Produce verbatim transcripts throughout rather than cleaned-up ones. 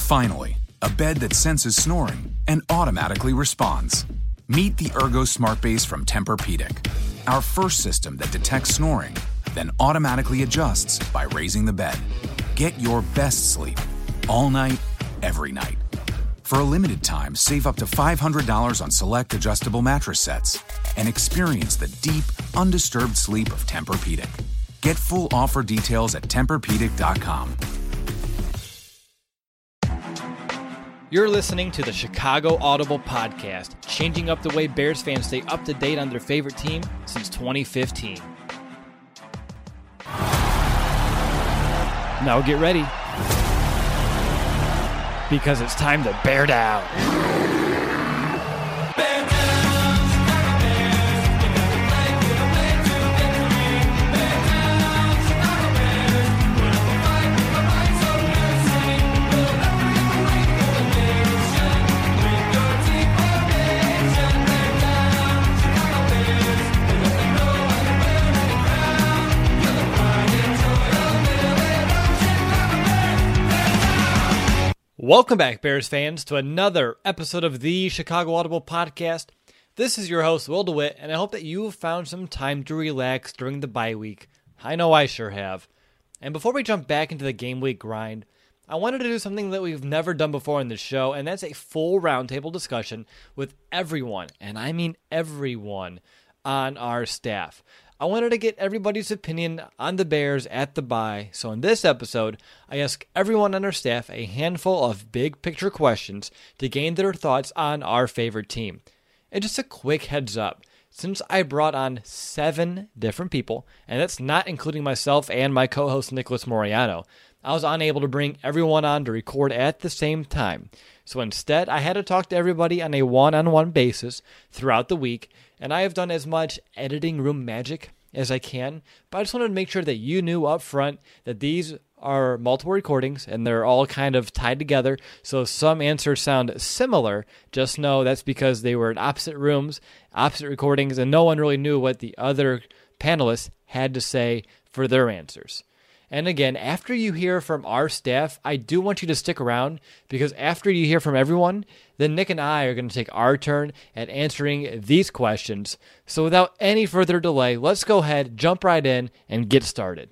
Finally, a bed that senses snoring and automatically responds. Meet the Ergo Smart Base from Tempur-Pedic, our first system that detects snoring, then automatically adjusts by raising the bed. Get your best sleep all night, every night. For a limited time, save up to five hundred dollars on select adjustable mattress sets and experience the deep, undisturbed sleep of Tempur-Pedic. Get full offer details at Tempur Pedic dot com. You're listening to the Chicago Audible Podcast, changing up the way Bears fans stay up to date on their favorite team since twenty fifteen. Now get ready, because it's time to bear down. Welcome back, Bears fans, to another episode of the Chicago Audible Podcast. This is your host, Will DeWitt, and I hope that you have found some time to relax during the bye week. I know I sure have. And before we jump back into the game week grind, I wanted to do something that we've never done before in this show, and that's a full roundtable discussion with everyone, and I mean everyone, on our staff. I wanted to get everybody's opinion on the Bears at the bye, so in this episode, I ask everyone on our staff a handful of big picture questions to gain their thoughts on our favorite team. And just a quick heads up, since I brought on seven different people, and that's not including myself and my co-host Nicholas Moriano, I was unable to bring everyone on to record at the same time. So instead, I had to talk to everybody on a one-on-one basis throughout the week, and I have done as much editing room magic as I can, but I just wanted to make sure that you knew up front that these are multiple recordings and they're all kind of tied together, so if some answers sound similar, just know that's because they were in opposite rooms, opposite recordings, and no one really knew what the other panelists had to say for their answers. And again, after you hear from our staff, I do want you to stick around, because after you hear from everyone, then Nick and I are going to take our turn at answering these questions. So without any further delay, let's go ahead, jump right in, and get started.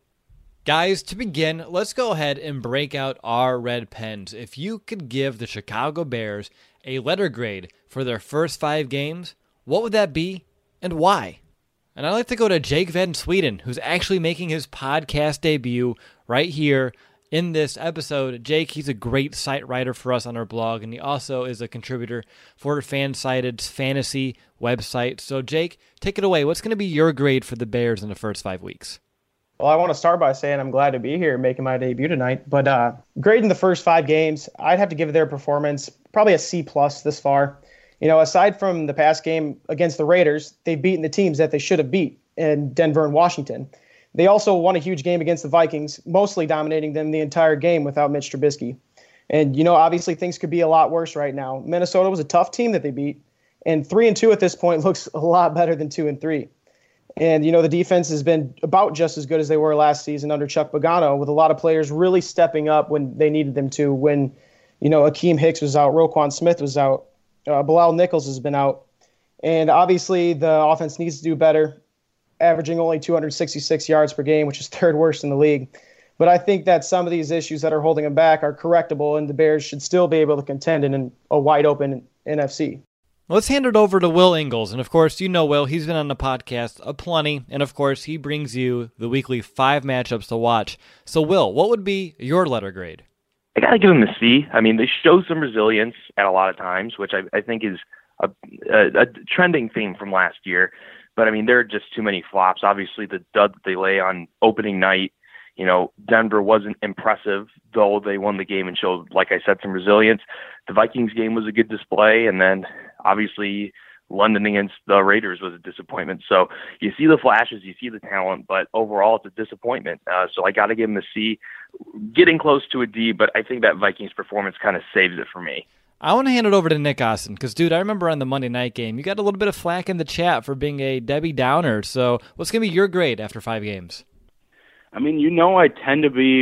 Guys, to begin, let's go ahead and break out our red pens. If you could give the Chicago Bears a letter grade for their first five games, what would that be, and why? And I'd like to go to Jake Van Sweden, who's actually making his podcast debut right here in this episode. Jake, he's a great site writer for us on our blog, and he also is a contributor for Fansided's fantasy website. So, Jake, take it away. What's going to be your grade for the Bears in the first five weeks? Well, I want to start by saying I'm glad to be here making my debut tonight. But uh, grading the first five games, I'd have to give their performance probably a C plus this far. You know, aside from the past game against the Raiders, they've beaten the teams that they should have beat in Denver and Washington. They also won a huge game against the Vikings, mostly dominating them the entire game without Mitch Trubisky. And, you know, obviously things could be a lot worse right now. Minnesota was a tough team that they beat, and three and two at this point looks a lot better than two and three. And, you know, the defense has been about just as good as they were last season under Chuck Pagano, with a lot of players really stepping up when they needed them to, when, you know, Akeem Hicks was out, Roquan Smith was out. Uh, Bilal Nichols has been out. And obviously the offense needs to do better, averaging only two hundred sixty-six yards per game, which is third worst in the league. But I think that some of these issues that are holding them back are correctable, and the Bears should still be able to contend in a wide-open N F C. Let's hand it over to Will Ingles. And, of course, you know Will. He's been on the podcast a plenty. And, of course, he brings you the weekly five matchups to watch. So, Will, what would be your letter grade? I got to give them a C. I mean, they show some resilience at a lot of times, which I, I think is a, a, a trending theme from last year. But, I mean, there are just too many flops. Obviously, the dud that they lay on opening night, you know, Denver wasn't impressive, though they won the game and showed, like I said, some resilience. The Vikings game was a good display, and then, obviously, London against the Raiders was a disappointment. So you see the flashes, you see the talent, but overall it's a disappointment. Uh, so I got to give them a C, getting close to a D, but I think that Vikings performance kind of saves it for me. I want to hand it over to Nick Austin because, dude, I remember on the Monday night game, you got a little bit of flack in the chat for being a Debbie Downer. So what's going to be your grade after five games? I mean, you know I tend to be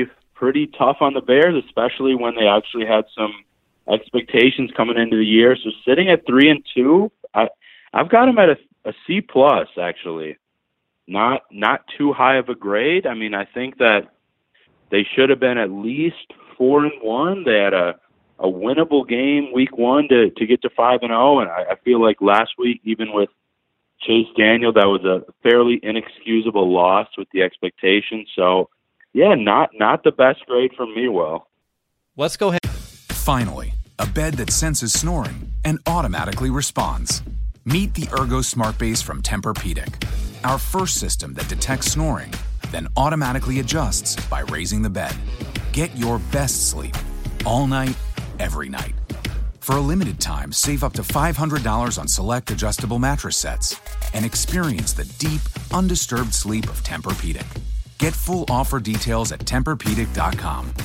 pretty tough on the Bears, especially when they actually had some expectations coming into the year. So sitting at three and two, I, I've got them at a, a C plus actually. Not not too high of a grade. I mean, I think that they should have been at least four and one. They had a, a winnable game week one to, to get to five and zero, and I, I feel like last week, even with Chase Daniel, that was a fairly inexcusable loss with the expectation. So, yeah, not not the best grade from me. Will. Let's go ahead. Finally, a bed that senses snoring and automatically responds. Meet the Ergo Smart Base from Tempur-Pedic, our first system that detects snoring, then automatically adjusts by raising the bed. Get your best sleep all night, every night. For a limited time, save up to five hundred dollars on select adjustable mattress sets and experience the deep, undisturbed sleep of Tempur-Pedic. Get full offer details at Tempur Pedic dot com.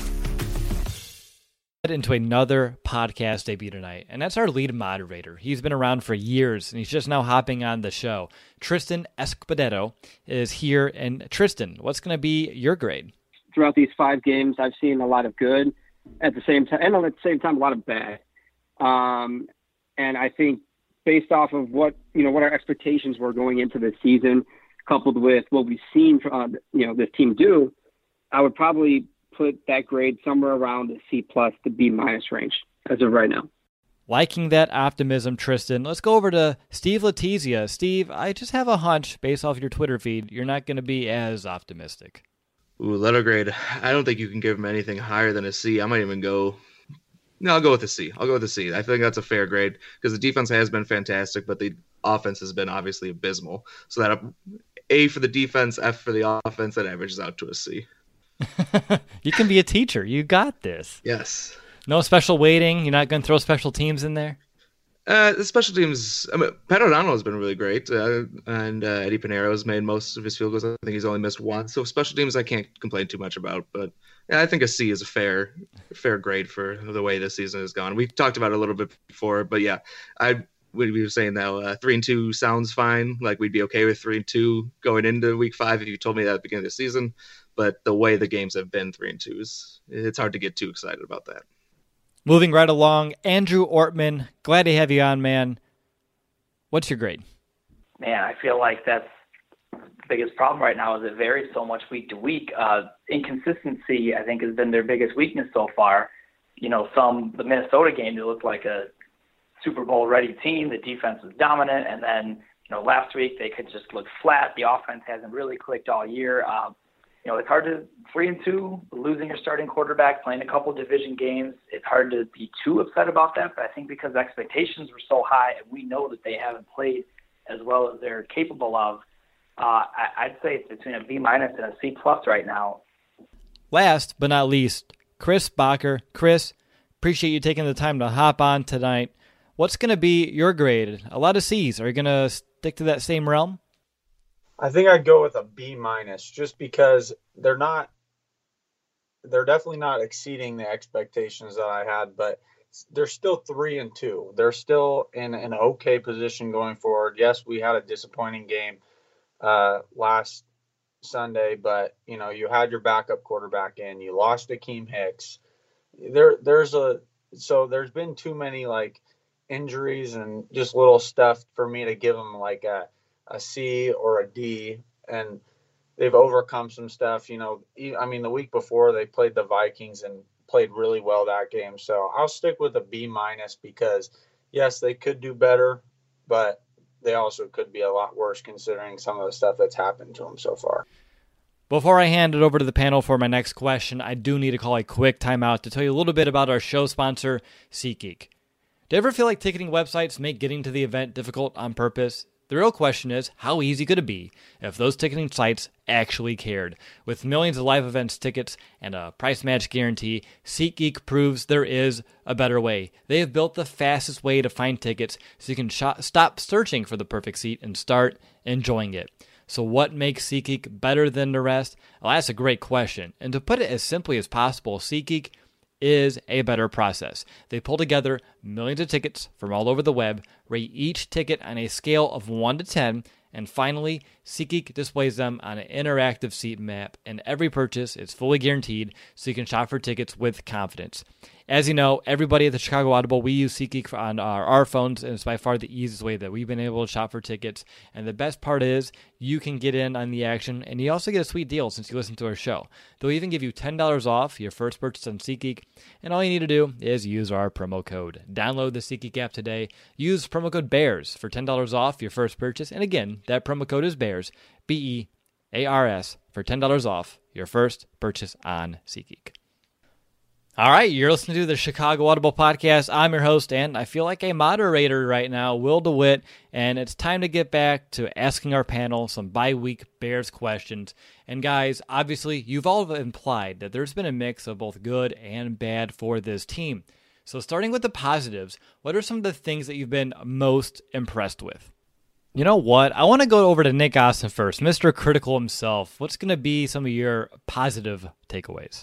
Into another podcast debut tonight, and that's our lead moderator. He's been around for years, and he's just now hopping on the show. Tristan Escobedo is here, and Tristan, what's going to be your grade? Throughout these five games, I've seen a lot of good at the same time, and at the same time, a lot of bad. Um, and I think based off of what you know, what our expectations were going into the season, coupled with what we've seen, uh, you know, this team do, I would probably put that grade somewhere around the C plus to B minus range as of right now. Liking that optimism, Tristan. Let's go over to Steve Letizia. Steve, I just have a hunch based off your Twitter feed, you're not going to be as optimistic. Ooh, letter grade. I don't think you can give him anything higher than a C. I might even go, no, I'll go with a C. I'll go with a C. I think that's a fair grade because the defense has been fantastic, but the offense has been obviously abysmal. So that A for the defense, F for the offense, that averages out to a C. You can be a teacher. You got this. Yes. No special weighting. You're not going to throw special teams in there? Uh, the special teams, I mean, Pat O'Donnell has been really great, uh, and uh, Eddie Pinheiro has made most of his field goals. I think he's only missed one. So special teams I can't complain too much about. But yeah, I think a C is a fair fair grade for the way this season has gone. We talked about it a little bit before, but yeah, I would be saying that uh, three and two sounds fine. Like we'd be okay with three and two going into week five if you told me that at the beginning of the season. But the way the games have been three and twos, it's hard to get too excited about that. Moving right along, Andrew Ortman, glad to have you on, man. What's your grade? Man, I feel like that's the biggest problem right now is it varies so much week to week. Uh, inconsistency, I think, has been their biggest weakness so far. You know, some the Minnesota game, they looked like a Super Bowl-ready team. The defense was dominant, and then, you know, last week they could just look flat. The offense hasn't really clicked all year. Um, You know, it's hard to three and two, losing your starting quarterback, playing a couple division games. It's hard to be too upset about that, but I think because expectations were so high and we know that they haven't played as well as they're capable of, uh, I, I'd say it's between a B minus and a C plus right now. Last but not least, Chris Bacher. Chris, appreciate you taking the time to hop on tonight. What's going to be your grade? A lot of C's. Are you going to stick to that same realm? I think I'd go with a B minus just because they're not, they're definitely not exceeding the expectations that I had, but they're still three and two. They're still in an okay position going forward. Yes, we had a disappointing game uh, last Sunday, but you know, you had your backup quarterback in, you lost Akeem Hicks. There, there's a, so there's been too many like injuries and just little stuff for me to give them like a, a C or a D, and they've overcome some stuff. You know, I mean, the week before they played the Vikings and played really well that game. So I'll stick with a B minus because yes, they could do better, but they also could be a lot worse considering some of the stuff that's happened to them so far. Before I hand it over to the panel for my next question, I do need to call a quick timeout to tell you a little bit about our show sponsor, SeatGeek. Do you ever feel like ticketing websites make getting to the event difficult on purpose? The real question is, how easy could it be if those ticketing sites actually cared? With millions of live events tickets and a price match guarantee, SeatGeek proves there is a better way. They have built the fastest way to find tickets so you can sh- stop searching for the perfect seat and start enjoying it. So what makes SeatGeek better than the rest? Well, that's a great question. And to put it as simply as possible, SeatGeek is a better process. They pull together millions of tickets from all over the web, rate each ticket on a scale of one to ten, And finally, SeatGeek displays them on an interactive seat map, and every purchase is fully guaranteed so you can shop for tickets with confidence. As you know, everybody at the Chicago Audible, we use SeatGeek on our, our phones, and it's by far the easiest way that we've been able to shop for tickets. And the best part is you can get in on the action, and you also get a sweet deal since you listen to our show. They'll even give you ten dollars off your first purchase on SeatGeek, and all you need to do is use our promo code. Download the SeatGeek app today. Use promo code BEARS for ten dollars off your first purchase. And again, that promo code is BEARS, B E A R S, for ten dollars off your first purchase on SeatGeek. All right, you're listening to the Chicago Audible Podcast. I'm your host, and I feel like a moderator right now, Will DeWitt, and it's time to get back to asking our panel some bye-week Bears questions. And guys, obviously, you've all implied that there's been a mix of both good and bad for this team. So starting with the positives, what are some of the things that you've been most impressed with? You know what? I want to go over to Nick Austin first, Mister Critical himself. What's going to be some of your positive takeaways?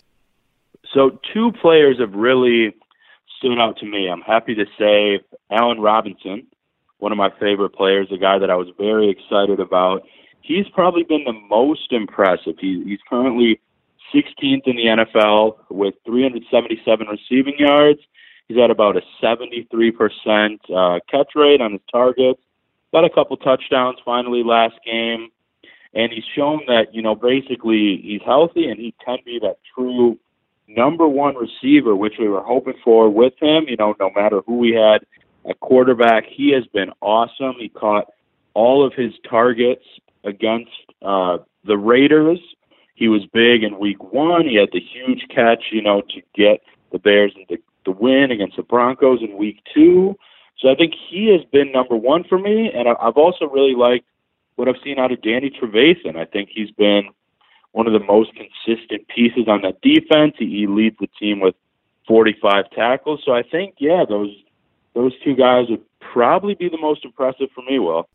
So two players have really stood out to me. I'm happy to say Allen Robinson, one of my favorite players, a guy that I was very excited about. He's probably been the most impressive. He, he's currently sixteenth in the N F L with three hundred seventy-seven receiving yards. He's at about a seventy-three percent uh, catch rate on his targets. Got a couple touchdowns finally last game. And he's shown that, you know, basically he's healthy and he can be that true number one receiver, which we were hoping for with him. You know, no matter who we had at quarterback, he has been awesome. He caught all of his targets against uh, the Raiders. He was big in week one. He had the huge catch, you know, to get the Bears into the win against the Broncos in week two. So I think he has been number one for me. And I've also really liked what I've seen out of Danny Trevathan. I think he's been one of the most consistent pieces on that defense. He, he leads the team with forty-five tackles. So I think, yeah, those those two guys would probably be the most impressive for me, Will.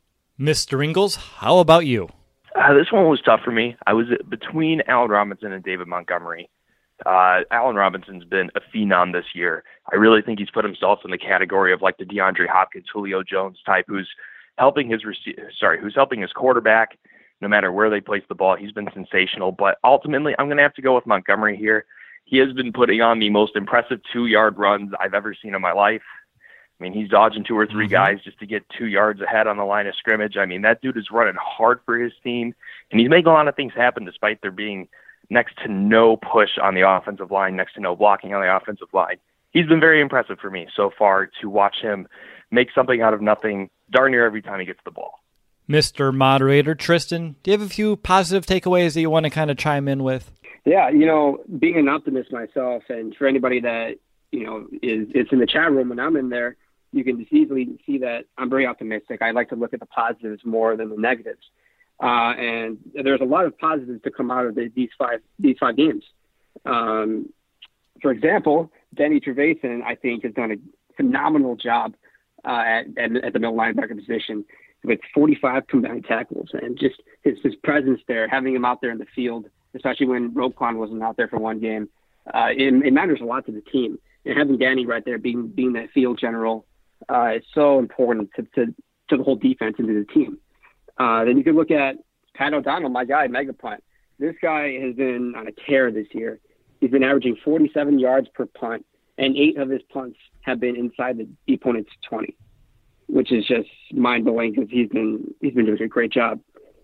Mister Ingles, how about you? Uh, this one was tough for me. I was between Allen Robinson and David Montgomery. Uh, Allen Robinson's been a phenom this year. I really think he's put himself in the category of like the DeAndre Hopkins, Julio Jones type, who's helping his rece- sorry, who's helping his quarterback. No matter where they place the ball, he's been sensational. But ultimately, I'm going to have to go with Montgomery here. He has been putting on the most impressive two-yard runs I've ever seen in my life. I mean, he's dodging two or three mm-hmm. guys just to get two yards ahead on the line of scrimmage. I mean, that dude is running hard for his team, and he's making a lot of things happen despite there being next to no push on the offensive line, next to no blocking on the offensive line. He's been very impressive for me so far to watch him make something out of nothing darn near every time he gets the ball. Mister Moderator, Tristan, do you have a few positive takeaways that you want to kind of chime in with? Yeah, you know, being an optimist myself, and for anybody that, you know, is, is in the chat room when I'm in there, you can just easily see that I'm very optimistic. I like to look at the positives more than the negatives. Uh, and there's a lot of positives to come out of the, these five these five games. Um, for example, Danny Trevathan, I think, has done a phenomenal job uh, at, at, at the middle linebacker position with forty-five combined tackles, and just his, his presence there, having him out there in the field, especially when Roquan wasn't out there for one game, uh, it, it matters a lot to the team. And having Danny right there being being that field general uh, is so important to, to, to the whole defense and to the team. Uh, then you could look at Pat O'Donnell, my guy, Mega Punt. This guy has been on a tear this year. He's been averaging forty-seven yards per punt, and eight of his punts have been inside the opponent's twenty, which is just mind-blowing because he's been he's been doing a great job.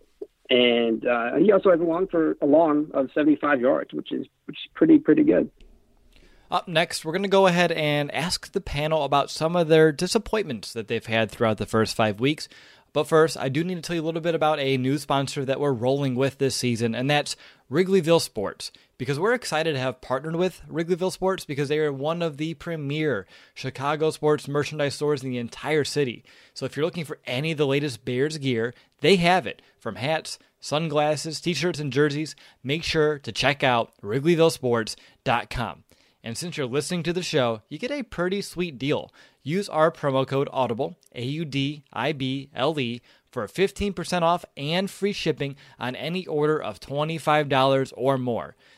And uh, he also has a long for a long of seventy-five yards, which is which is pretty pretty good. Up next, we're going to go ahead and ask the panel about some of their disappointments that they've had throughout the first five weeks. But first, I do need to tell you a little bit about a new sponsor that we're rolling with this season, and that's Wrigleyville Sports. Because we're excited to have partnered with Wrigleyville Sports because they are one of the premier Chicago sports merchandise stores in the entire city. So if you're looking for any of the latest Bears gear, they have it. From hats, sunglasses, t-shirts, and jerseys, make sure to check out Wrigleyville Sports dot com. And since you're listening to the show, you get a pretty sweet deal. Use our promo code AUDIBLE, A U D I B L E, for fifteen percent off and free shipping on any order of twenty-five dollars or more.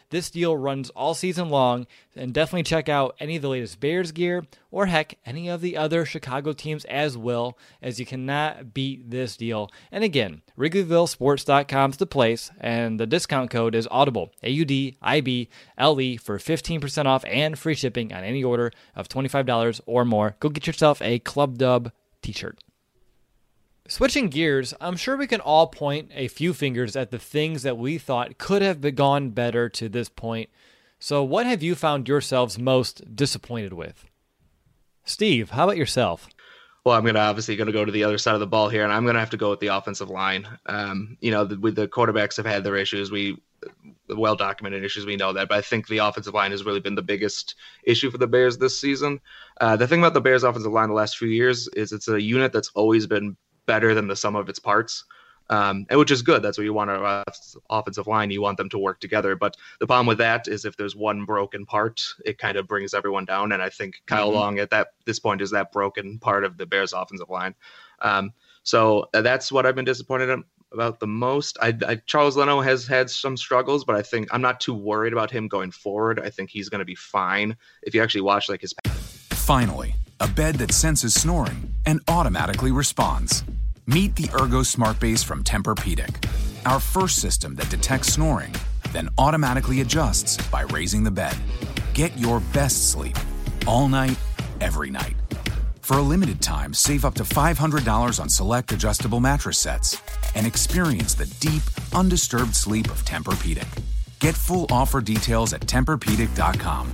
This deal runs all season long, and definitely check out any of the latest Bears gear, or heck, any of the other Chicago teams as well, as you cannot beat this deal. And again, Wrigleyville Sports dot com is the place, and the discount code is Audible, A U D I B L E, for fifteen percent off and free shipping on any order of twenty-five dollars or more. Go get yourself a Club Dub t-shirt. Switching gears, I'm sure we can all point a few fingers at the things that we thought could have gone better to this point. So what have you found yourselves most disappointed with? Steve, how about yourself? Well, I'm gonna obviously going to go to the other side of the ball here, and I'm going to have to go with the offensive line. Um, you know, the, with the quarterbacks have had their issues. We well-documented issues, we know that, but I think the offensive line has really been the biggest issue for the Bears this season. Uh, the thing about the Bears offensive line the last few years is it's a unit that's always been better than the sum of its parts, um, and which is good. That's what you want our uh, offensive line. You want them to work together. But the problem with that is if there's one broken part, it kind of brings everyone down. And I think Kyle mm-hmm. Long at that this point is that broken part of the Bears offensive line. Um, so uh, that's what I've been disappointed about the most. I, I, Charles Leno has had some struggles, but I think I'm not too worried about him going forward. I think he's going to be fine. If you actually watch like his. Finally, a bed that senses snoring and automatically responds. Meet the Ergo Smart Base from Tempur-Pedic, our first system that detects snoring, then automatically adjusts by raising the bed. Get your best sleep all night, every night. For a limited time, save up to five hundred dollars on select adjustable mattress sets and experience the deep, undisturbed sleep of Tempur-Pedic. Get full offer details at Tempur Pedic dot com.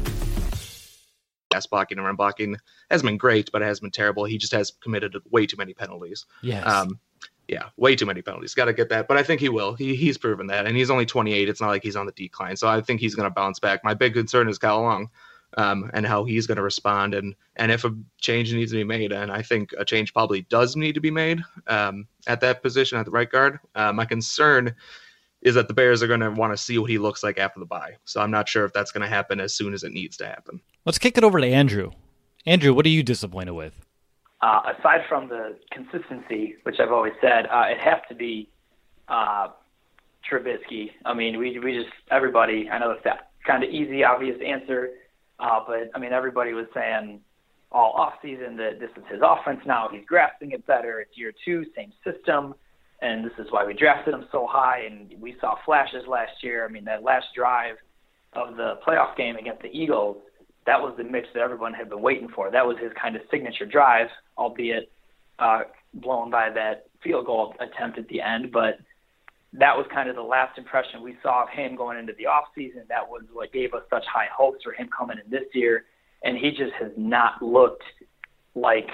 Pass blocking and run blocking has been great, but it has been terrible. He just has committed way too many penalties. Yes. Um, yeah, way too many penalties. Got to get that, but I think he will. He he's proven that, and he's only twenty-eight. It's not like he's on the decline, so I think he's going to bounce back. My big concern is Kyle Long, um, and how he's going to respond, and and if a change needs to be made, and I think a change probably does need to be made um, at that position at the right guard. Uh, my concern is that the Bears are going to want to see what he looks like after the bye. So I'm not sure if that's going to happen as soon as it needs to happen. Let's kick it over to Andrew. Andrew, what are you disappointed with? Uh, aside from the consistency, which I've always said, uh, it has to be uh, Trubisky. I mean, we we just, everybody, I know it's that kind of easy, obvious answer, uh, but, I mean, everybody was saying all offseason that this is his offense now. He's grasping it better. It's year two, same system. And this is why we drafted him so high, and we saw flashes last year. I mean, that last drive of the playoff game against the Eagles, that was the Mitch that everyone had been waiting for. That was his kind of signature drive, albeit uh, blown by that field goal attempt at the end. But that was kind of the last impression we saw of him going into the offseason. That was what gave us such high hopes for him coming in this year. And he just has not looked like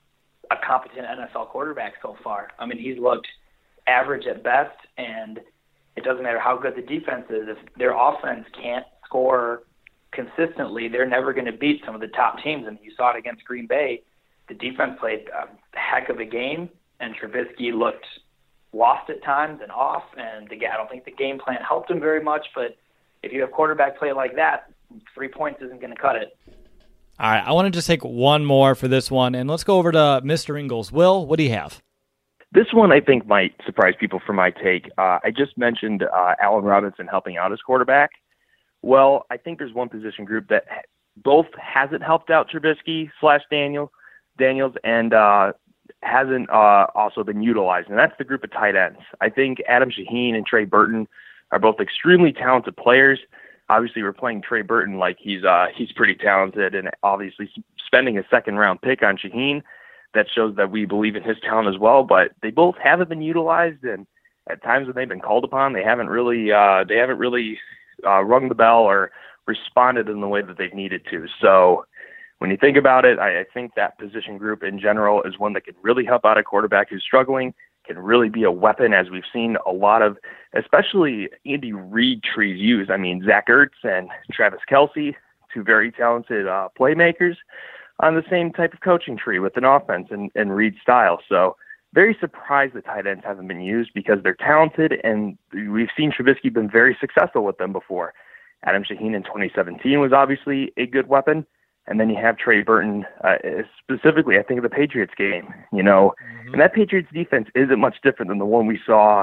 a competent N F L quarterback so far. I mean, he's looked average at best, and it doesn't matter how good the defense is. If their offense can't score consistently, they're never going to beat some of the top teams. I mean, you saw it against Green Bay. The defense played a heck of a game, and Trubisky looked lost at times and off, and the, I don't think the game plan helped him very much, but if you have quarterback play like that, three points isn't going to cut it. All right, I want to just take one more for this one, and let's go over to Mister Ingles. Will, what do you have? This one I think might surprise people for my take. Uh, I just mentioned uh, Allen Robinson helping out as quarterback. Well, I think there's one position group that both hasn't helped out Trubisky slash Daniel, Daniels and uh, hasn't uh, also been utilized, and that's the group of tight ends. I think Adam Shaheen and Trey Burton are both extremely talented players. Obviously, we're playing Trey Burton like he's uh, he's pretty talented, and obviously spending a second-round pick on Shaheen, that shows that we believe in his talent as well, but they both haven't been utilized, and at times when they've been called upon, they haven't really uh, they haven't really uh, rung the bell or responded in the way that they've needed to. So when you think about it, I, I think that position group in general is one that can really help out a quarterback who's struggling, can really be a weapon, as we've seen a lot of, especially Andy Reid trees used. I mean, Zach Ertz and Travis Kelce, two very talented uh, playmakers, on the same type of coaching tree with an offense and, and Reid style. So very surprised that tight ends haven't been used because they're talented, and we've seen Trubisky been very successful with them before. Adam Shaheen in twenty seventeen was obviously a good weapon. And then you have Trey Burton, uh, specifically, I think, of the Patriots game, you know, mm-hmm. and that Patriots defense isn't much different than the one we saw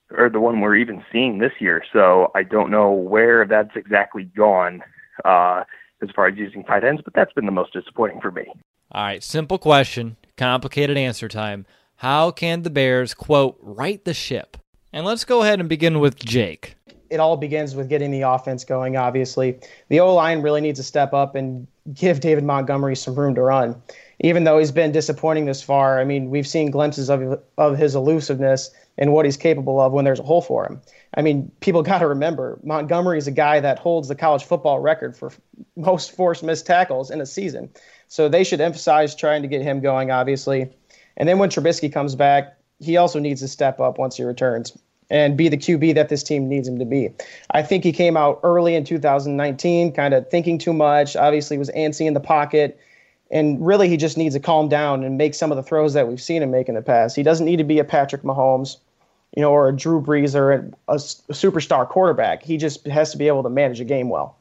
or the one we're even seeing this year. So I don't know where that's exactly gone uh, as far as using tight ends, but that's been the most disappointing for me. All right, simple question, complicated answer time. How can the Bears, quote, right the ship? And let's go ahead and begin with Jake. It all begins with getting the offense going, obviously. The O-line really needs to step up and give David Montgomery some room to run. Even though he's been disappointing this far, I mean, we've seen glimpses of of his elusiveness and what he's capable of when there's a hole for him. I mean, people got to remember, Montgomery is a guy that holds the college football record for most forced missed tackles in a season. So they should emphasize trying to get him going, obviously. And then when Trubisky comes back, he also needs to step up once he returns and be the Q B that this team needs him to be. I think he came out early in two thousand nineteen, kind of thinking too much, obviously was antsy in the pocket, and really he just needs to calm down and make some of the throws that we've seen him make in the past. He doesn't need to be a Patrick Mahomes, you know, or a Drew Brees or a, a, a superstar quarterback. He just has to be able to manage a game well.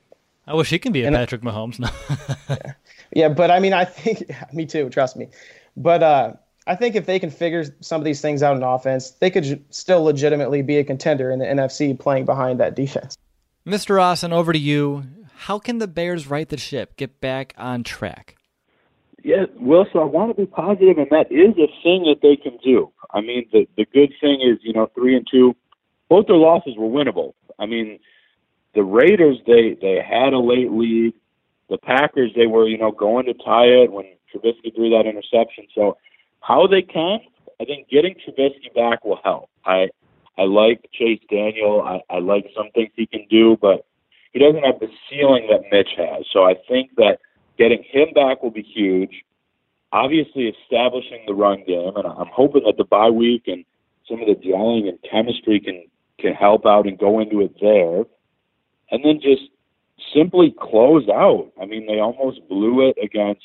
I wish he can be a and, Patrick Mahomes. yeah. yeah, but I mean, I think, yeah, me too, trust me. But uh, I think if they can figure some of these things out in offense, they could still legitimately be a contender in the N F C playing behind that defense. Mister Rawson, over to you. How can the Bears right the ship, get back on track? Yeah, Will, so I want to be positive, and that is a thing that they can do. I mean, the the good thing is, you know, three and two, both their losses were winnable. I mean, the Raiders, they, they had a late lead. The Packers, they were, you know, going to tie it when Trubisky threw that interception. So how they can, I think getting Trubisky back will help. I I like Chase Daniel. I, I like some things he can do, but he doesn't have the ceiling that Mitch has. So I think that getting him back will be huge. Obviously establishing the run game, and I'm hoping that the bye week and some of the gelling and chemistry can, can help out and go into it there. And then just simply close out. I mean, they almost blew it against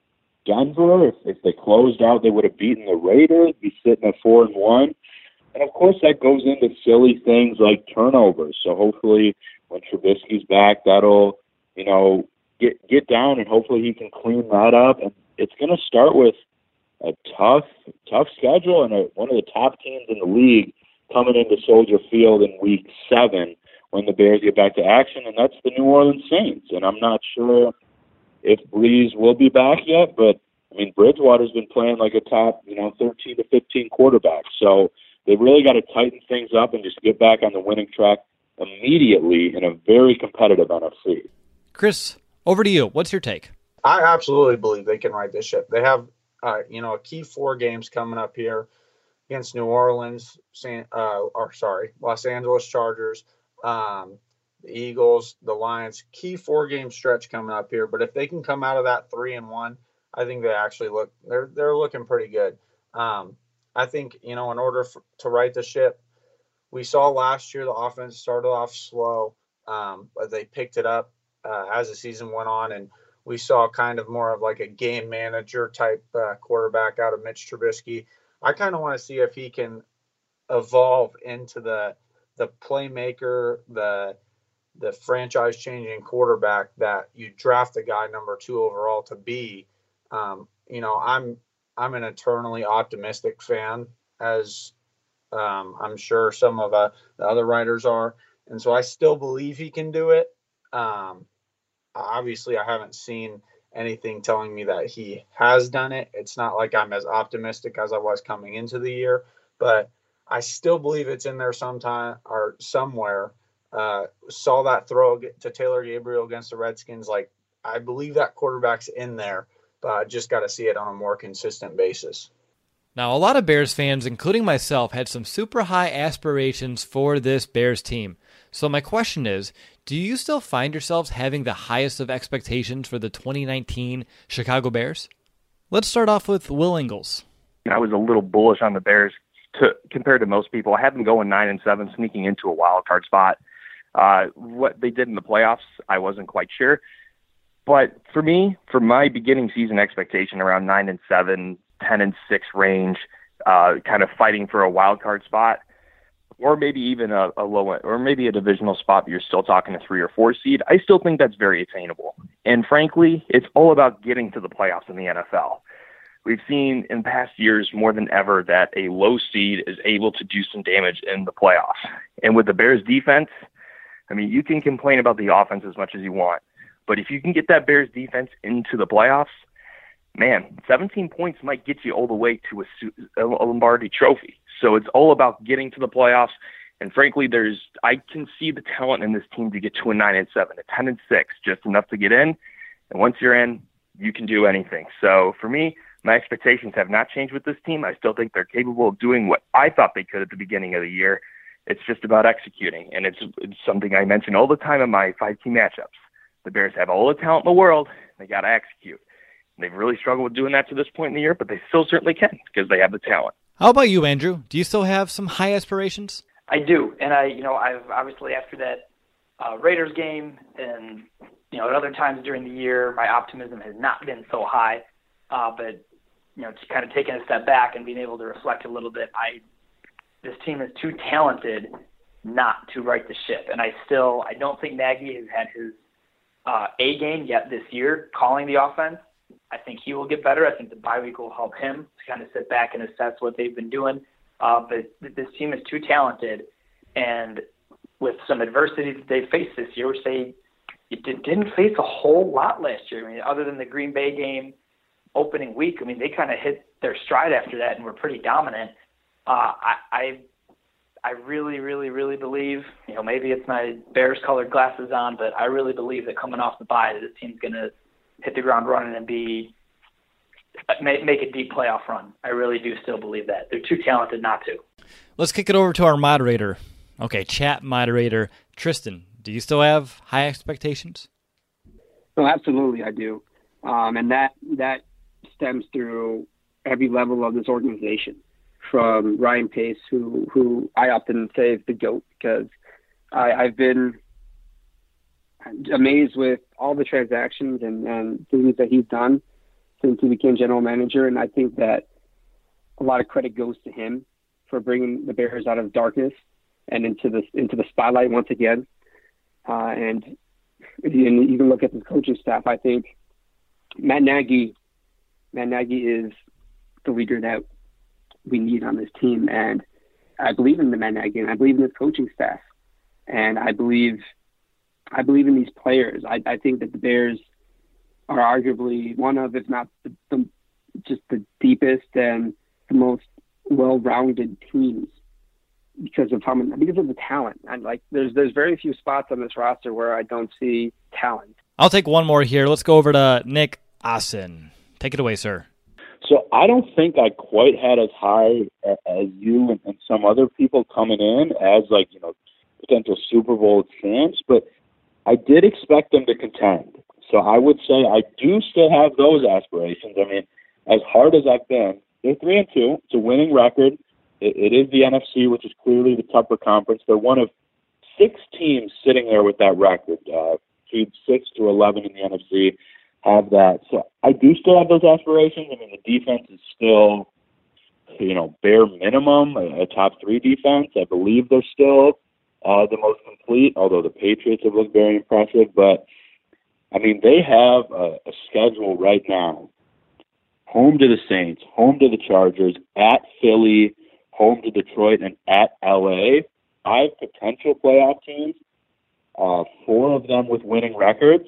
Denver. If, if they closed out, they would have beaten the Raiders, be sitting at four and one. And of course, that goes into silly things like turnovers. So hopefully, when Trubisky's back, that'll, you know, get get down, and hopefully he can clean that up. And it's going to start with a tough, tough schedule and a, one of the top teams in the league coming into Soldier Field in week seven when the Bears get back to action, and that's the New Orleans Saints. And I'm not sure if Brees will be back yet, but I mean, Bridgewater's been playing like a top, you know, thirteen to fifteen quarterback. So they've really got to tighten things up and just get back on the winning track immediately in a very competitive N F C. Chris, over to you. What's your take? I absolutely believe they can right this ship. They have, uh, you know, a key four games coming up here against New Orleans, San, uh, or sorry, Los Angeles Chargers, um, the Eagles, the Lions. Key four game stretch coming up here. But if they can come out of that three and one, I think they actually look they're they're looking pretty good. Um, I think, you know, in order for, to right the ship, we saw last year the offense started off slow, um, but they picked it up uh, as the season went on, and we saw kind of more of like a game manager type uh, quarterback out of Mitch Trubisky. I kind of want to see if he can evolve into the the playmaker, the the franchise changing quarterback that you draft a guy number two overall to be. Um, you know, I'm I'm an eternally optimistic fan, as um, I'm sure some of uh, the other writers are, and so I still believe he can do it. Um, obviously, I haven't seen anything telling me that he has done it. It's not like I'm as optimistic as I was coming into the year, but I still believe it's in there sometime or somewhere. Uh, saw that throw to Taylor Gabriel against the Redskins. Like, I believe that quarterback's in there, but I just got to see it on a more consistent basis. Now, a lot of Bears fans, including myself, had some super high aspirations for this Bears team. So my question is, do you still find yourselves having the highest of expectations for the twenty nineteen Chicago Bears? Let's start off with Will Ingles. I was a little bullish on the Bears to, compared to most people. I had them going nine and seven, sneaking into a wild card spot. Uh, what they did in the playoffs, I wasn't quite sure. But for me, for my beginning season expectation around nine and seven, ten and six range, uh, kind of fighting for a wild card spot, or maybe even a, a low, or maybe a divisional spot, but you're still talking a three or four seed, I still think that's very attainable. And frankly, it's all about getting to the playoffs in the N F L. we've seen in past years more than ever that a low seed is able to do some damage in the playoffs. And with the Bears defense, I mean, you can complain about the offense as much as you want, but if you can get that Bears defense into the playoffs, man, seventeen points might get you all the way to a, a Lombardi trophy. So it's all about getting to the playoffs. And frankly, there's I can see the talent in this team to get to a nine and seven, a ten and six, just enough to get in. And once you're in, you can do anything. So for me, my expectations have not changed with this team. I still think they're capable of doing what I thought they could at the beginning of the year. It's just about executing. And it's, it's something I mention all the time in my five-team matchups. The Bears have all the talent in the world. They got to execute. And they've really struggled with doing that to this point in the year, but they still certainly can because they have the talent. How about you, Andrew? Do you still have some high aspirations? I do. And I, you know, I've obviously after that uh, Raiders game and, you know, at other times during the year, my optimism has not been so high. Uh, but, you know, just kind of taking a step back and being able to reflect a little bit, I, this team is too talented not to right the ship. And I still, I don't think Nagy has had his uh, A game yet this year calling the offense. I think he will get better. I think the bye week will help him to kind of sit back and assess what they've been doing. Uh, but this team is too talented, and with some adversity that they faced this year, which they it didn't face a whole lot last year. I mean, other than the Green Bay game opening week, I mean, they kind of hit their stride after that and were pretty dominant. Uh, I, I I really, really, really believe, you know, maybe it's my Bears-colored glasses on, but I really believe that coming off the bye, this team's going to hit the ground running and be make, make a deep playoff run. I really do still believe that. They're too talented not to. Let's kick it over to our moderator. Okay, chat moderator, Tristan. Do you still have high expectations? No, absolutely I do. Um, and that that stems through every level of this organization, from Ryan Pace, who, who I often say is the GOAT, because I, I've been amazed with all the transactions and, and things that he's done since he became general manager. And I think that a lot of credit goes to him for bringing the Bears out of darkness and into the, into the spotlight once again. Uh, and if you even look at the coaching staff, I think Matt Nagy, Matt Nagy is the leader that we need on this team. And I believe in the Matt Nagy, and I believe in his coaching staff. And I believe, I believe in these players. I, I think that the Bears are arguably one of, if not the, the, just the deepest and the most well-rounded teams because of how many, because of the talent. And like, there's there's very few spots on this roster where I don't see talent. I'll take one more here. Let's go over to Nick Assen. Take it away, sir. So I don't think I quite had as high as you and, and some other people coming in as, like, you know, potential Super Bowl champs, but I did expect them to contend. So I would say I do still have those aspirations. I mean, as hard as I've been, they're three and two. It's a winning record. It, it is the N F C, which is clearly the tougher conference. They're one of six teams sitting there with that record. Uh, seed six to eleven in the N F C have that. So I do still have those aspirations. I mean, the defense is still, you know, bare minimum, a, a top three defense. I believe they're still uh, the most complete, although the Patriots have looked very impressive. But I mean, they have a, a schedule right now. Home to the Saints, home to the Chargers, at Philly, home to Detroit, and at L A. Five potential playoff teams, uh, four of them with winning records.